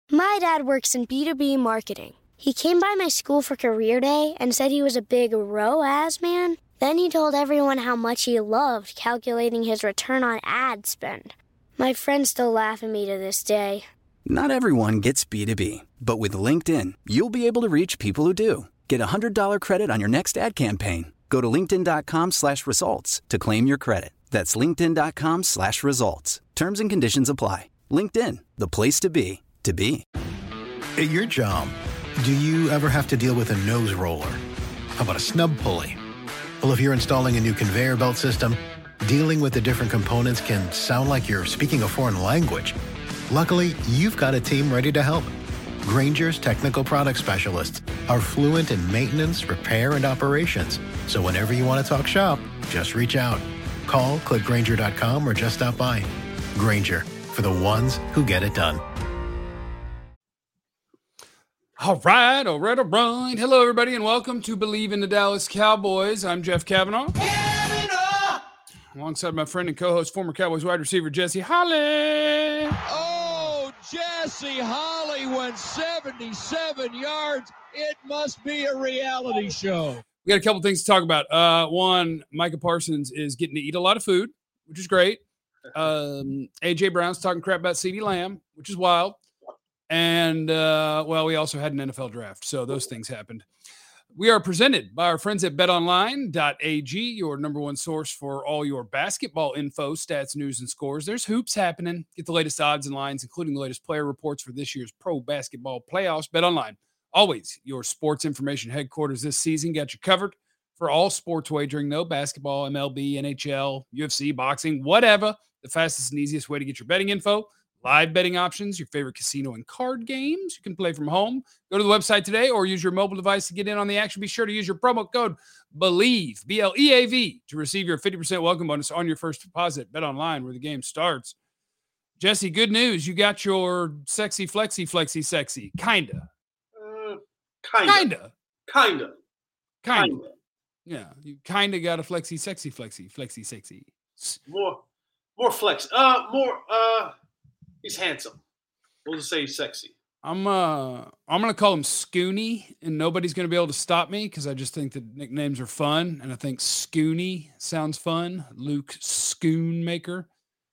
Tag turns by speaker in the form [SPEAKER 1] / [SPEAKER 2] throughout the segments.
[SPEAKER 1] My dad works in B2B marketing. He came by my school for career day and said he was a big ROAS man. Then he told everyone how much he loved calculating his return on ad spend. My friends still laugh at me to this day.
[SPEAKER 2] Not everyone gets B2B, but with LinkedIn, you'll be able to reach people who do. Get a $100 credit on your next ad campaign. Go to linkedin.com/results to claim your credit. That's linkedin.com/results. Terms and conditions apply. LinkedIn, the place to be, to be.
[SPEAKER 3] At your job, do you ever have to deal with a nose roller? How about a snub pulley? Well, if you're installing a new conveyor belt system, dealing with the different components can sound like you're speaking a foreign language. Luckily, you've got a team ready to help. Grainger's technical product specialists are fluent in maintenance, repair, and operations. So whenever you want to talk shop, just reach out. Call, click Grainger.com, or just stop by. Grainger, for the ones who get it done.
[SPEAKER 4] All right. Hello, everybody, and welcome to Believe in the Dallas Cowboys. I'm Jeff Cavanaugh. Alongside my friend and co-host, former Cowboys wide receiver, Jesse Holley.
[SPEAKER 5] Oh, Jesse Holley went 77 yards. It must be a reality show.
[SPEAKER 4] We got a couple things to talk about. One, Micah Parsons is getting to eat a lot of food, which is great. A.J. Brown's talking crap about CeeDee Lamb, which is wild. And, we also had an NFL draft, so those things happened. We are presented by our friends at betonline.ag, your number one source for all your basketball info, stats, news, and scores. There's hoops happening. Get the latest odds and lines, including the latest player reports for this year's pro basketball playoffs. BetOnline, always your sports information headquarters this season. Got you covered for all sports wagering, though. Basketball, MLB, NHL, UFC, boxing, whatever. The fastest and easiest way to get your betting info. Live betting options, your favorite casino and card games. You can play from home. Go to the website today or use your mobile device to get in on the action. Be sure to use your promo code BELIEVE, B-L-E-A-V, to receive your 50% welcome bonus on your first deposit. Bet online where the game starts. Jesse, good news. You got your sexy, flexy, sexy. Kinda.
[SPEAKER 6] Kinda.
[SPEAKER 4] Yeah, you kind of got a flexy, sexy.
[SPEAKER 6] More flex. He's handsome. We'll just say he's sexy.
[SPEAKER 4] I'm gonna call him Scooney, and nobody's gonna be able to stop me because I just think the nicknames are fun, and I think Scooney sounds fun. Luke Schoonmaker.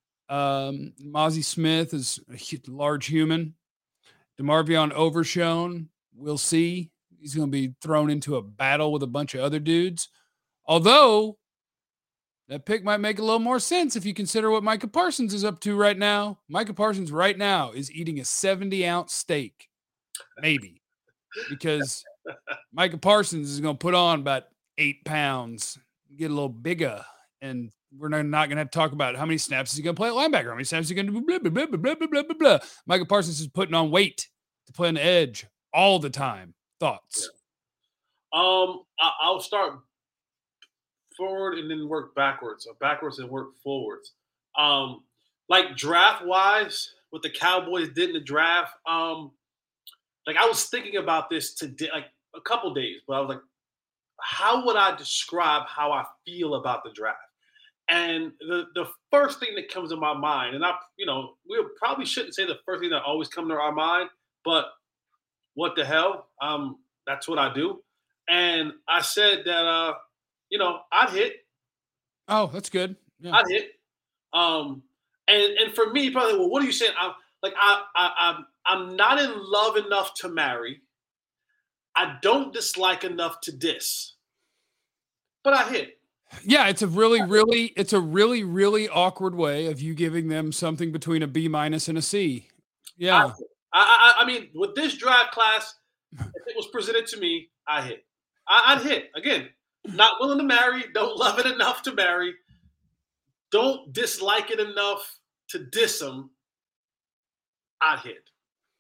[SPEAKER 4] Mozzie Smith is a large human. DeMarvion Overshown, we'll see. He's gonna be thrown into a battle with a bunch of other dudes. Although that pick might make a little more sense if you consider what Micah Parsons is up to right now. Micah Parsons right now is eating a 70-ounce steak, maybe, because Micah Parsons is going to put on about 8 pounds, get a little bigger, and we're not going to have to talk about how many snaps is he going to play at linebacker, how many snaps is he going to do, blah, blah, blah, blah, blah, blah, blah, blah. Micah Parsons is putting on weight to play on the edge all the time. Thoughts?
[SPEAKER 6] Yeah. I'll start forward and then work backwards, or backwards and work forwards. Like draft wise, what the Cowboys did in the draft, I was thinking about this today, like a couple days, but I was like, how would I describe how I feel about the draft? And the first thing that comes to my mind, and we probably shouldn't say the first thing that always comes to our mind, but what the hell? That's what I do. And I said that, I'd hit.
[SPEAKER 4] Oh, that's good. Yeah.
[SPEAKER 6] I'd hit. And for me, probably, well, what are you saying? I'm not in love enough to marry. I don't dislike enough to diss. But I hit.
[SPEAKER 4] Yeah, it's a really awkward way of you giving them something between a B- and a C. Yeah.
[SPEAKER 6] I mean, with this draft class, if it was presented to me, I hit. I'd hit. Again, not willing to marry, don't love it enough to marry, don't dislike it enough to diss them, I'd hit.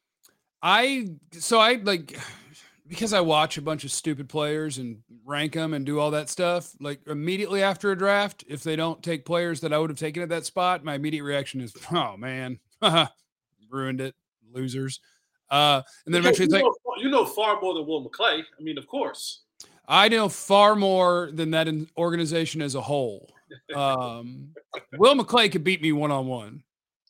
[SPEAKER 4] Because I watch a bunch of stupid players and rank them and do all that stuff, like immediately after a draft, if they don't take players that I would have taken at that spot, my immediate reaction is, oh man, ruined it, losers. And then eventually it's like,
[SPEAKER 6] you know far more than Will McClay. I mean, of course.
[SPEAKER 4] I know far more than that organization as a whole. Will McClay could beat me one-on-one.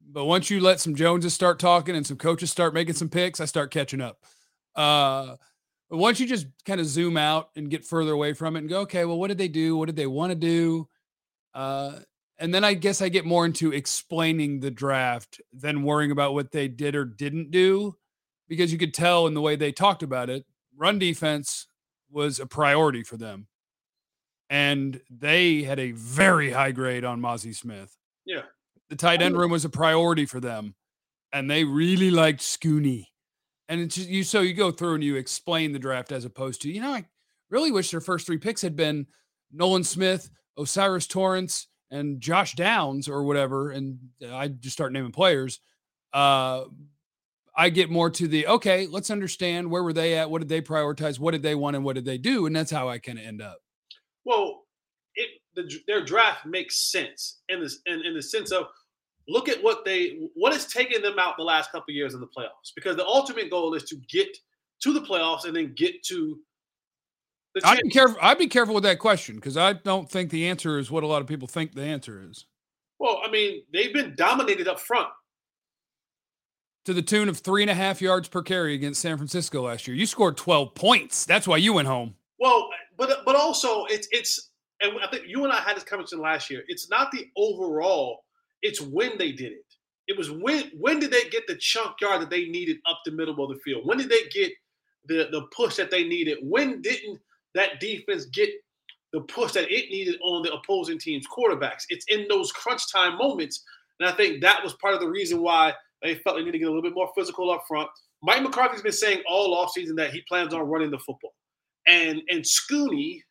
[SPEAKER 4] But once you let some Joneses start talking and some coaches start making some picks, I start catching up. But once you just kind of zoom out and get further away from it and go, okay, well, what did they do? What did they want to do? And then I guess I get more into explaining the draft than worrying about what they did or didn't do, because you could tell in the way they talked about it, run defense was a priority for them. And they had a very high grade on Mozzie Smith.
[SPEAKER 6] Yeah.
[SPEAKER 4] The tight end room was a priority for them. And they really liked Scooney. And it's just, you go through and you explain the draft as opposed to, I really wish their first 3 picks had been Nolan Smith, Osiris Torrance, and Josh Downs or whatever. And I just start naming players. I get more to the, okay, let's understand where were they at? What did they prioritize? What did they want? And what did they do? And that's how I kind of end up.
[SPEAKER 6] Well, their draft makes sense in the sense of, look at what has taken them out the last couple of years in the playoffs, because the ultimate goal is to get to the playoffs and then get to the championship.
[SPEAKER 4] I'd be careful with that question, because I don't think the answer is what a lot of people think the answer is.
[SPEAKER 6] Well, I mean, they've been dominated up front.
[SPEAKER 4] To the tune of 3.5 yards per carry against San Francisco last year. You scored 12 points. That's why you went home.
[SPEAKER 6] Well, but also it's and I think you and I had this conversation last year. It's not the overall, it's when they did it. It was when did they get the chunk yard that they needed up the middle of the field? When did they get the push that they needed? When didn't that defense get the push that it needed on the opposing team's quarterbacks? It's in those crunch time moments. And I think that was part of the reason why they felt they need to get a little bit more physical up front. Mike McCarthy's been saying all offseason that he plans on running the football. And Scooney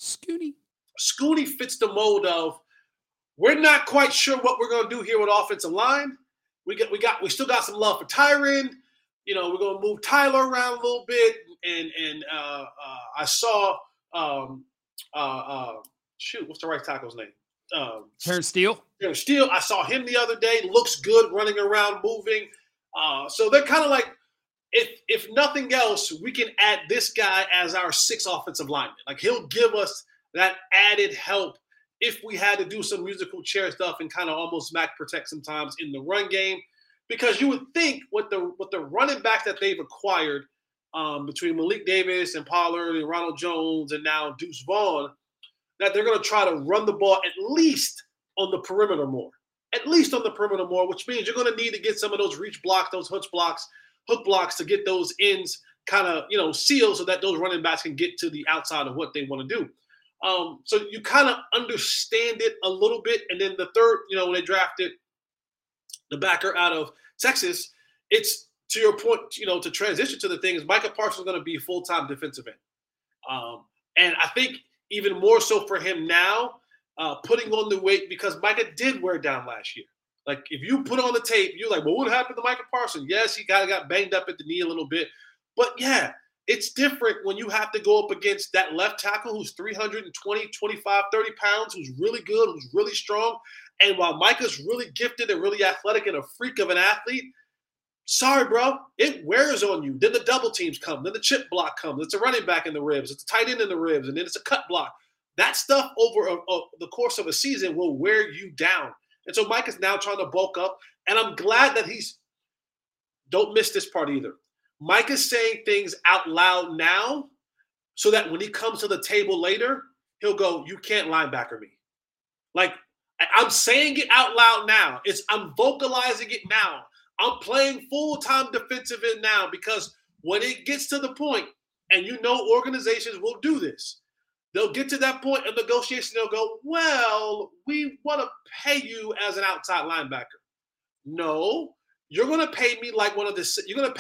[SPEAKER 6] fits the mold of, we're not quite sure what we're going to do here with offensive line. We still got some love for Tyron. We're going to move Tyler around a little bit. And I saw what's the right tackle's name?
[SPEAKER 4] Terrence Steele.
[SPEAKER 6] Terrence Steele. I saw him the other day. Looks good, running around, moving. So they're kind of like, if nothing else, we can add this guy as our 6th offensive lineman. Like, he'll give us that added help if we had to do some musical chair stuff and kind of almost Mac protect sometimes in the run game. Because you would think with the running backs that they've acquired between Malik Davis and Pollard and Ronald Jones and now Deuce Vaughn, that they're going to try to run the ball at least on the perimeter more. At least on the perimeter more, which means you're going to need to get some of those reach blocks, those hook blocks to get those ends kind of, sealed so that those running backs can get to the outside of what they want to do. So you kind of understand it a little bit. And then the third, when they drafted the backer out of Texas, it's, to your point, to transition to the things, Micah Parsons is going to be full-time defensive end. And I think even more so for him now, putting on the weight, because Micah did wear down last year. Like, if you put on the tape, you're like, well, what happened to Micah Parsons? Yes, he kind of got banged up at the knee a little bit. But, yeah, it's different when you have to go up against that left tackle who's 320, 25, 30 pounds, who's really good, who's really strong. And while Micah's really gifted and really athletic and a freak of an athlete, sorry, bro, it wears on you. Then the double teams come. Then the chip block comes. It's a running back in the ribs. It's a tight end in the ribs. And then it's a cut block. That stuff over the course of a season will wear you down. And so Mike is now trying to bulk up. And I'm glad that don't miss this part either. Mike is saying things out loud now so that when he comes to the table later, he'll go, you can't linebacker me. Like, I'm saying it out loud now. I'm vocalizing it now. I'm playing full-time defensive end now, because when it gets to the point, and organizations will do this, they'll get to that point of negotiation. They'll go, well, we want to pay you as an outside linebacker. No, you're going to pay me like one of the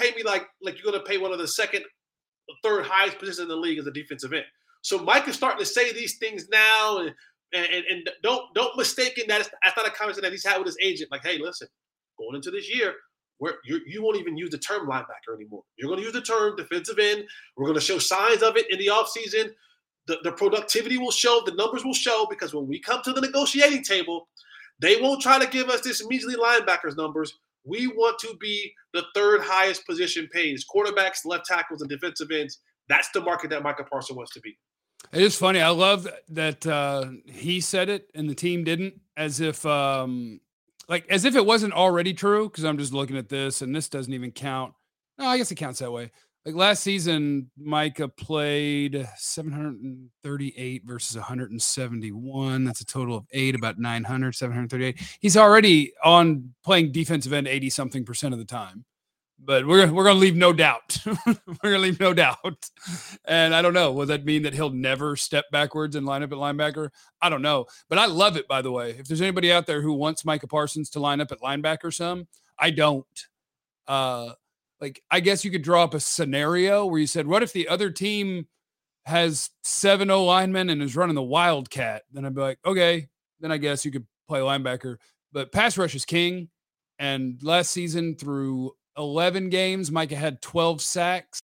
[SPEAKER 6] second, third highest positions in the league as a defensive end. So Mike is starting to say these things now, and don't mistake it that's not a conversation that he's had with his agent. Like, hey, listen, going into this year, you won't even use the term linebacker anymore. You're going to use the term defensive end. We're going to show signs of it in the offseason. The productivity will show, the numbers will show, because when we come to the negotiating table, they won't try to give us this measly linebackers numbers. We want to be the 3rd highest position paid. Quarterbacks, left tackles, and defensive ends. That's the market that Micah Parsons wants to be.
[SPEAKER 4] It is funny. I love that he said it and the team didn't, as if like like as if it wasn't already true, because I'm just looking at this and this doesn't even count. No, I guess it counts that way. Like last season, Micah played 738 versus 171. That's a total of 8, about 900, 738. He's already on playing defensive end 80-something% of the time. But we're going to leave no doubt. We're going to leave no doubt. And I don't know. Will that mean that he'll never step backwards and line up at linebacker? I don't know. But I love it, by the way. If there's anybody out there who wants Micah Parsons to line up at linebacker some, I don't. Like, I guess you could draw up a scenario where you said, what if the other team has 7 O-linemen and is running the Wildcat? Then I'd be like, okay, then I guess you could play linebacker. But pass rush is king. And last season through 11 games, Micah had 12 sacks.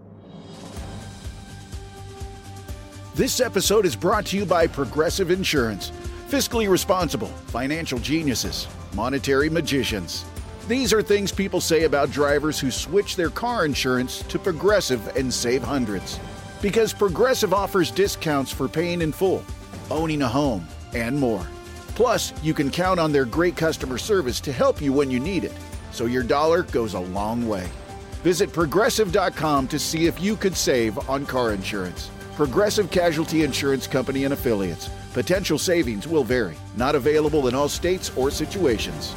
[SPEAKER 7] This episode is brought to you by Progressive Insurance. Fiscally responsible, financial geniuses, monetary magicians. These are things people say about drivers who switch their car insurance to Progressive and save hundreds. Because Progressive offers discounts for paying in full, owning a home, and more. Plus, you can count on their great customer service to help you when you need it. So your dollar goes a long way. Visit Progressive.com to see if you could save on car insurance. Progressive Casualty Insurance Company and Affiliates. Potential savings will vary. Not available in all states or situations.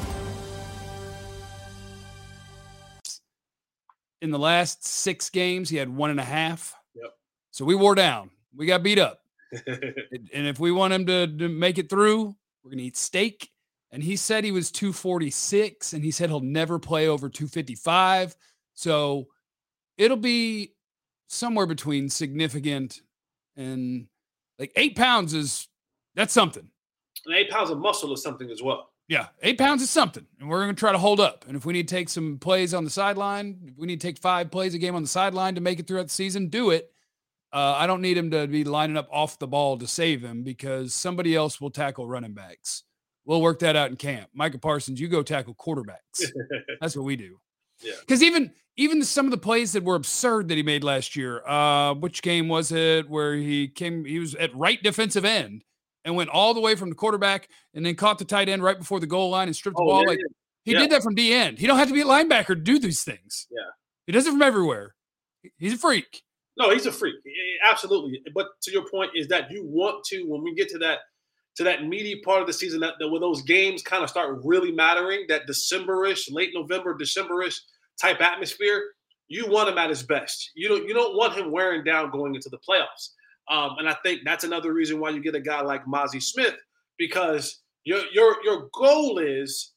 [SPEAKER 4] In the last 6 games, he had 1.5.
[SPEAKER 6] Yep.
[SPEAKER 4] So we wore down. We got beat up. And if we want him to make it through, we're going to eat steak. And he said he was 246, and he said he'll never play over 255. So it'll be somewhere between significant and like 8 pounds that's something.
[SPEAKER 6] And 8 pounds of muscle is something as well.
[SPEAKER 4] Yeah, 8 pounds is something, and we're going to try to hold up. And if we need to take some plays on the sideline, if we need to take 5 plays a game on the sideline to make it throughout the season, do it. I don't need him to be lining up off the ball to save him because somebody else will tackle running backs. We'll work that out in camp. Micah Parsons, you go tackle quarterbacks. That's what we do.
[SPEAKER 6] Yeah.
[SPEAKER 4] Because even some of the plays that were absurd that he made last year, which game was it where he was at right defensive end and went all the way from the quarterback and then caught the tight end right before the goal line and stripped the ball. Like he did that from D end. He don't have to be a linebacker to do these things.
[SPEAKER 6] Yeah.
[SPEAKER 4] He does it from everywhere. He's a freak.
[SPEAKER 6] No, he's a freak. Absolutely. But to your point is that you want to, when we get to that meaty part of the season, that when those games kind of start really mattering, that December-ish, late November, December-ish type atmosphere, you want him at his best. You don't want him wearing down going into the playoffs. And I think that's another reason why you get a guy like Mazi Smith, because your goal is,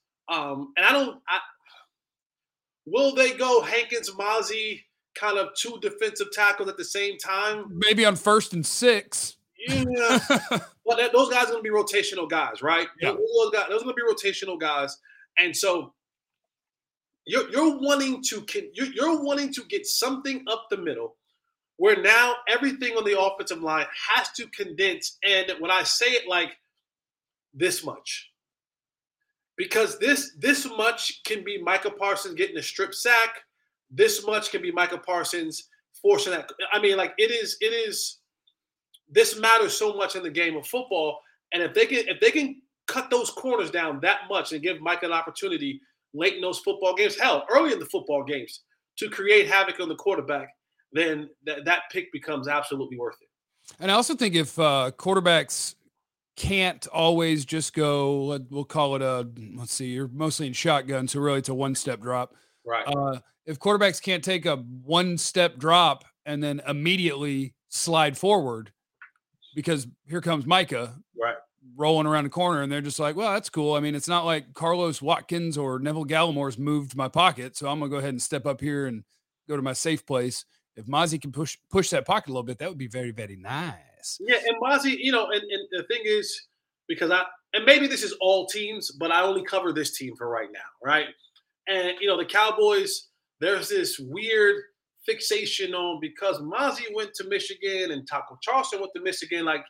[SPEAKER 6] will they go Hankins, Mazi, kind of 2 defensive tackles at the same time?
[SPEAKER 4] Maybe on 1st and 6.
[SPEAKER 6] Yeah. Well, those guys are going to be rotational guys, right?
[SPEAKER 4] Yeah.
[SPEAKER 6] Those are going to be rotational guys. And so you're wanting to get something up the middle where now everything on the offensive line has to condense. And when I say it like this much, because this much can be Micah Parsons getting a strip sack. This much can be Micah Parsons forcing that. I mean, like it is. This matters so much in the game of football, and if they can cut those corners down that much and give Micah an opportunity late in those football games, hell, early in the football games, to create havoc on the quarterback, then that pick becomes absolutely worth it.
[SPEAKER 4] And I also think if quarterbacks can't always just go, we'll call it you're mostly in shotgun, so really it's a 1-step drop.
[SPEAKER 6] Right.
[SPEAKER 4] If quarterbacks can't take a 1-step drop and then immediately slide forward, because here comes Micah
[SPEAKER 6] right
[SPEAKER 4] rolling around the corner, and they're just like, well, that's cool. I mean, it's not like Carlos Watkins or Neville Gallimore's moved my pocket, so I'm going to go ahead and step up here and go to my safe place. If Mazi can push that pocket a little bit, that would be very, very nice.
[SPEAKER 6] Yeah, and Mazi, and the thing is, because and maybe this is all teams, but I only cover this team for right now, right? And, the Cowboys, there's this weird fixation on because Mazi went to Michigan and Taco Charleston went to Michigan. Like,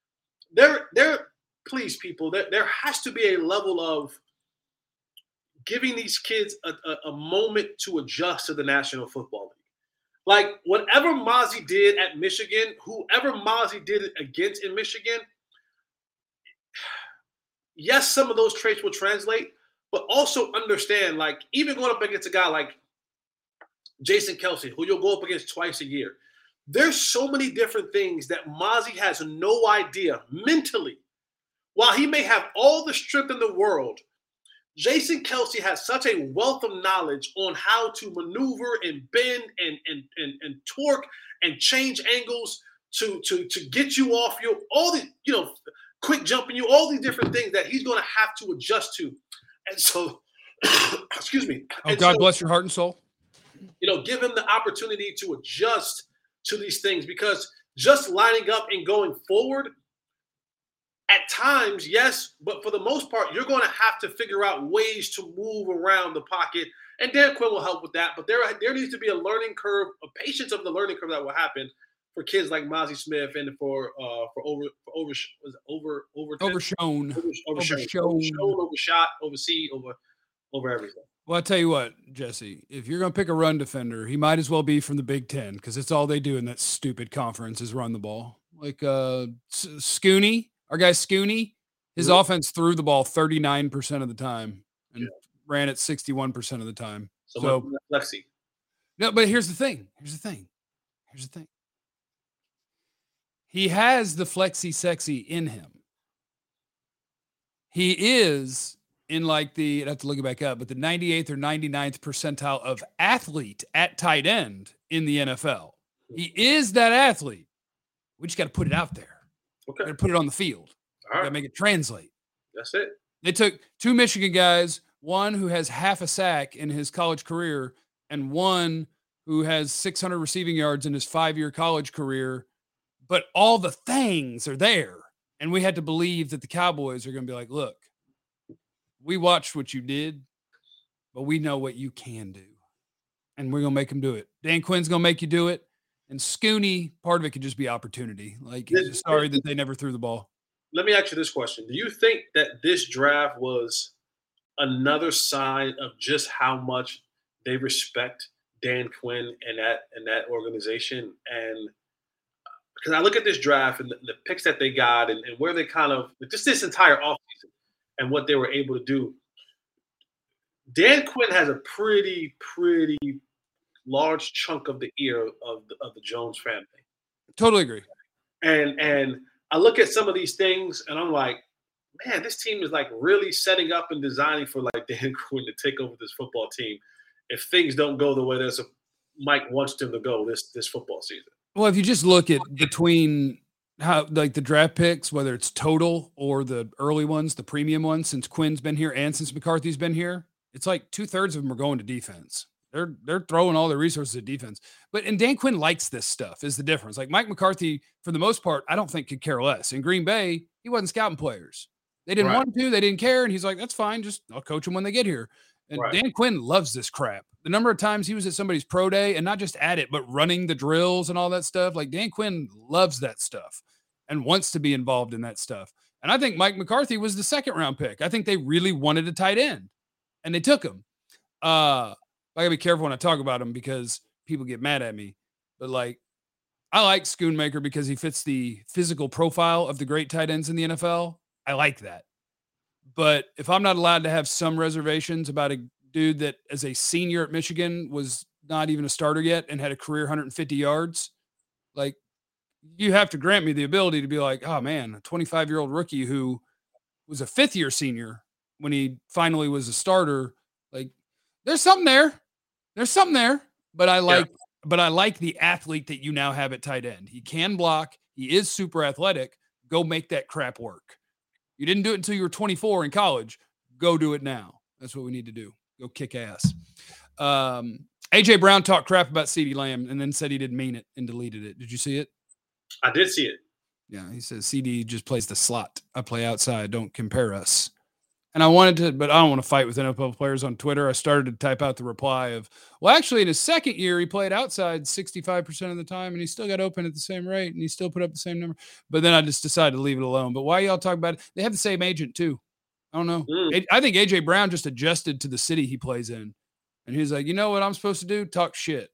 [SPEAKER 6] please, people, there has to be a level of giving these kids a moment to adjust to the National Football League. Like, whatever Mazi did at Michigan, whoever Mazi did it against in Michigan, yes, some of those traits will translate, but also understand, like, even going up against a guy like Jason Kelce, who you'll go up against twice a year, there's so many different things that Mazi has no idea mentally. While he may have all the strength in the world, Jason Kelce has such a wealth of knowledge on how to maneuver and bend and torque and change angles to get you off your all the quick jumping you, all these different things that he's going to have to adjust to. And so, excuse me.
[SPEAKER 4] Oh, God bless your heart and soul.
[SPEAKER 6] Give him the opportunity to adjust to these things, because just lining up and going forward at times, yes, but for the most part, you're going to have to figure out ways to move around the pocket, and Dan Quinn will help with that. But there needs to be a learning curve, a patience of the learning curve that will happen for kids like Mazi Smith and for
[SPEAKER 4] Overshot,
[SPEAKER 6] oversee, over everything.
[SPEAKER 4] Well, I'll tell you what, Jesse, if you're going to pick a run defender, he might as well be from the Big Ten, because it's all they do in that stupid conference is run the ball. Like Scooney, our guy Scooney, his offense threw the ball 39% of the time and ran it 61% of the time. So
[SPEAKER 6] Lexi.
[SPEAKER 4] No, but here's the thing. He has the flexi sexy in him. He is in like I'd have to look it back up, but the 98th or 99th percentile of athlete at tight end in the NFL. He is that athlete. We just got to put it out there.
[SPEAKER 6] Okay.
[SPEAKER 4] Got to put it on the field.
[SPEAKER 6] All right.
[SPEAKER 4] Got to make it translate.
[SPEAKER 6] That's it.
[SPEAKER 4] They took two Michigan guys, one who has half a sack in his college career and one who has 600 receiving yards in his 5-year college career, but all the things are there. And we had to believe that the Cowboys are going to be like, look, we watched what you did, but we know what you can do. And we're going to make them do it. Dan Quinn's going to make you do it. And Scooney, part of it could just be opportunity. Like, sorry that they never threw the ball.
[SPEAKER 6] Let me ask you this question. Do you think that this draft was another sign of just how much they respect Dan Quinn and that organization? And because I look at this draft and the picks that they got and where they kind of – just this entire offseason and what they were able to do, Dan Quinn has a pretty large chunk of the ear of the Jones family.
[SPEAKER 4] Totally agree.
[SPEAKER 6] And I look at some of these things and I'm like, man, this team is like really setting up and designing for like Dan Quinn to take over this football team if things don't go the way that Mike wants them to go this football season.
[SPEAKER 4] Well, if you just look at between how like the draft picks, whether it's total or the early ones, the premium ones, since Quinn's been here and since McCarthy's been here, it's like 2/3 of them are going to defense. They're throwing all their resources at defense. And Dan Quinn likes this stuff is the difference. Like Mike McCarthy, for the most part, I don't think could care less. In Green Bay, he wasn't scouting players. They didn't want to. They didn't care. And he's like, that's fine. Just I'll coach them when they get here. And Dan Quinn loves this crap. The number of times he was at somebody's pro day and not just at it, but running the drills and all that stuff. Like Dan Quinn loves that stuff and wants to be involved in that stuff. And I think Mike McCarthy was the 2nd round pick. I think they really wanted a tight end and they took him. I gotta be careful when I talk about him because people get mad at me. But like, I like Schoonmaker because he fits the physical profile of the great tight ends in the NFL. I like that. But if I'm not allowed to have some reservations about a dude that as a senior at Michigan was not even a starter yet and had a career 150 yards, like you have to grant me the ability to be like, oh man, a 25-year-old rookie who was a 5th-year senior when he finally was a starter. Like there's something there. But I like the athlete that you now have at tight end. He can block. He is super athletic. Go make that crap work. You didn't do it until you were 24 in college. Go do it now. That's what we need to do. Go kick ass. AJ Brown talked crap about CeeDee Lamb and then said he didn't mean it and deleted it. Did you see it?
[SPEAKER 6] I did see it.
[SPEAKER 4] Yeah, he says CeeDee just plays the slot. I play outside. Don't compare us. And I wanted to, but I don't want to fight with NFL players on Twitter. I started to type out the reply of, well, actually, in his 2nd year, he played outside 65% of the time, and he still got open at the same rate, and he still put up the same number. But then I just decided to leave it alone. But why y'all talk about it? They have the same agent, too. I don't know. I think A.J. Brown just adjusted to the city he plays in. And he's like, you know what I'm supposed to do? Talk shit.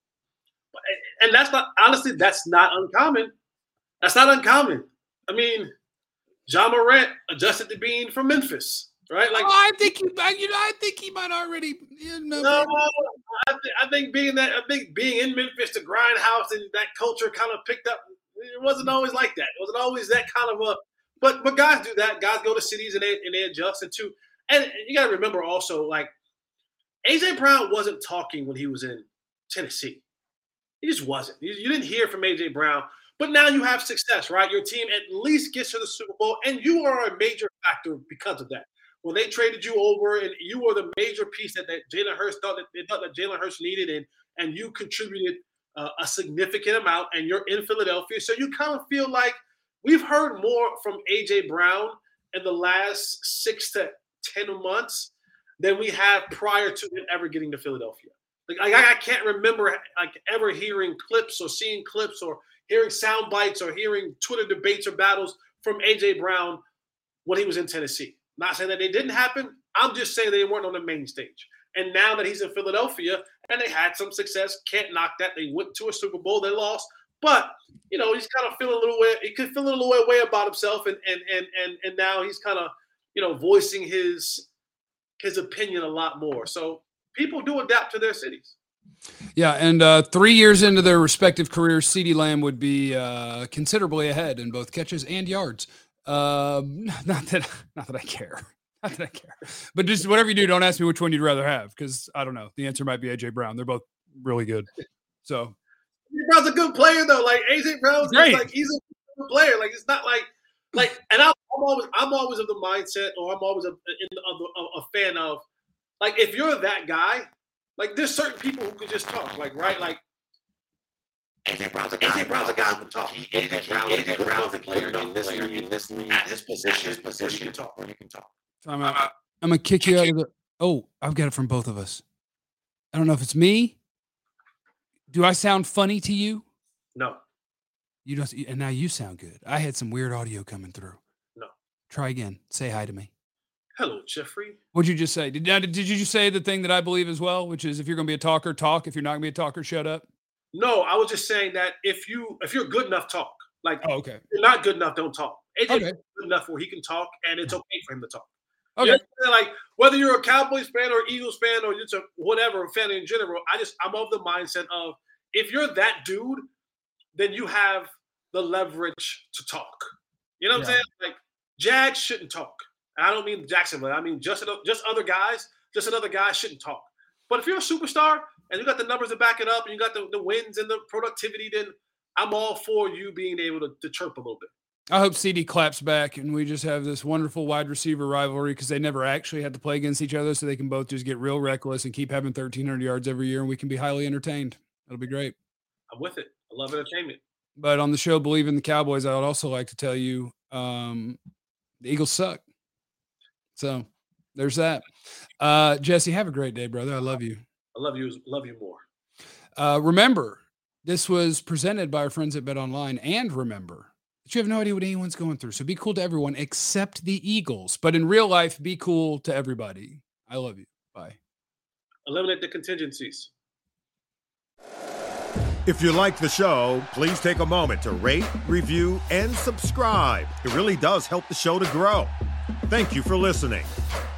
[SPEAKER 6] And that's not, honestly, that's not uncommon. That's not uncommon. I mean, John Morant adjusted to being from Memphis. right? Like,
[SPEAKER 4] I think he might already.
[SPEAKER 6] No, I think being in Memphis, the grindhouse and that culture kind of picked up. It wasn't always like that. It wasn't always that kind of a. But guys do that. Guys go to cities and they adjust. And you got to remember also, like, A.J. Brown wasn't talking when he was in Tennessee. He just wasn't. You didn't hear from A.J. Brown. But now you have success, right? Your team at least gets to the Super Bowl, and you are a major factor because of that. When they traded you over, and you were the major piece that Jalen Hurts thought that Jalen Hurts needed, and you contributed a significant amount, and you're in Philadelphia. So you kind of feel like we've heard more from A.J. Brown in the last 6 to 10 months than we have prior to him ever getting to Philadelphia. Like I can't remember like ever hearing clips or seeing clips or hearing sound bites or hearing Twitter debates or battles from A.J. Brown when he was in Tennessee. Not saying that they didn't happen. I'm just saying they weren't on the main stage. And now that he's in Philadelphia and they had some success, can't knock that. They went to a Super Bowl, they lost. But, he's kind of feeling a little way. He could feel a little way about himself. And now he's kind of, voicing his opinion a lot more. So people do adapt to their cities. Yeah,
[SPEAKER 4] and 3 years into their respective careers, CeeDee Lamb would be considerably ahead in both catches and yards. Not that I care. Not that I care. But just whatever you do, don't ask me which one you'd rather have, because I don't know. The answer might be A.J. Brown. They're both really good. So
[SPEAKER 6] A.J. Brown's a good player, though. Like, A.J. Brown's
[SPEAKER 4] great.
[SPEAKER 6] Like, he's a good player. Like, it's not like and I'm always of the mindset, or I'm always a fan of, like, if you're that guy, like, there's certain people who could just talk, like, right? Like, A.J. Brown's a guy who can talk. A.J. Brown's a player in this league, at his position, where he can talk.
[SPEAKER 4] I'm going to kick you out of the – oh, I've got it from both of us. I don't know if it's me. Do I sound funny to you?
[SPEAKER 6] No.
[SPEAKER 4] You don't, and now you sound good. I had some weird audio coming through.
[SPEAKER 6] No.
[SPEAKER 4] Try again. Say hi to me.
[SPEAKER 6] Hello, Jeffrey.
[SPEAKER 4] What'd you just say? Did you just say the thing that I believe as well, which is if you're going to be a talker, talk. If you're not going to be a talker, shut up?
[SPEAKER 6] No, I was just saying that if you're good enough, talk. Like,
[SPEAKER 4] okay.
[SPEAKER 6] If you're not good enough, don't talk. AJ's
[SPEAKER 4] okay.
[SPEAKER 6] good enough where he can talk, and it's okay for him to talk.
[SPEAKER 4] Okay.
[SPEAKER 6] You know, like, whether you're a Cowboys fan or Eagles fan or just a whatever fan in general, I'm of the mindset of, if you're that dude, then you have the leverage to talk. You know what I'm saying? Like, Jags shouldn't talk. And I don't mean Jacksonville. I mean just other guys. Just another guy shouldn't talk. But if you're a superstar and you got the numbers to back it up and you got the wins and the productivity, then I'm all for you being able to chirp a little bit.
[SPEAKER 4] I hope CeeDee claps back and we just have this wonderful wide receiver rivalry, because they never actually had to play against each other, so they can both just get real reckless and keep having 1,300 yards every year, and we can be highly entertained. That'll be great.
[SPEAKER 6] I'm with it. I love entertainment.
[SPEAKER 4] But on the show, Believe in the Cowboys, I would also like to tell you the Eagles suck. So there's that. Jesse, have a great day, brother. I love you.
[SPEAKER 6] I love you more.
[SPEAKER 4] Remember, this was presented by our friends at Bet Online, and remember that you have no idea what anyone's going through. So be cool to everyone except the Eagles. But in real life, be cool to everybody. I love you. Bye.
[SPEAKER 6] Eliminate the contingencies.
[SPEAKER 8] If you like the show, please take a moment to rate, review, and subscribe. It really does help the show to grow. Thank you for listening.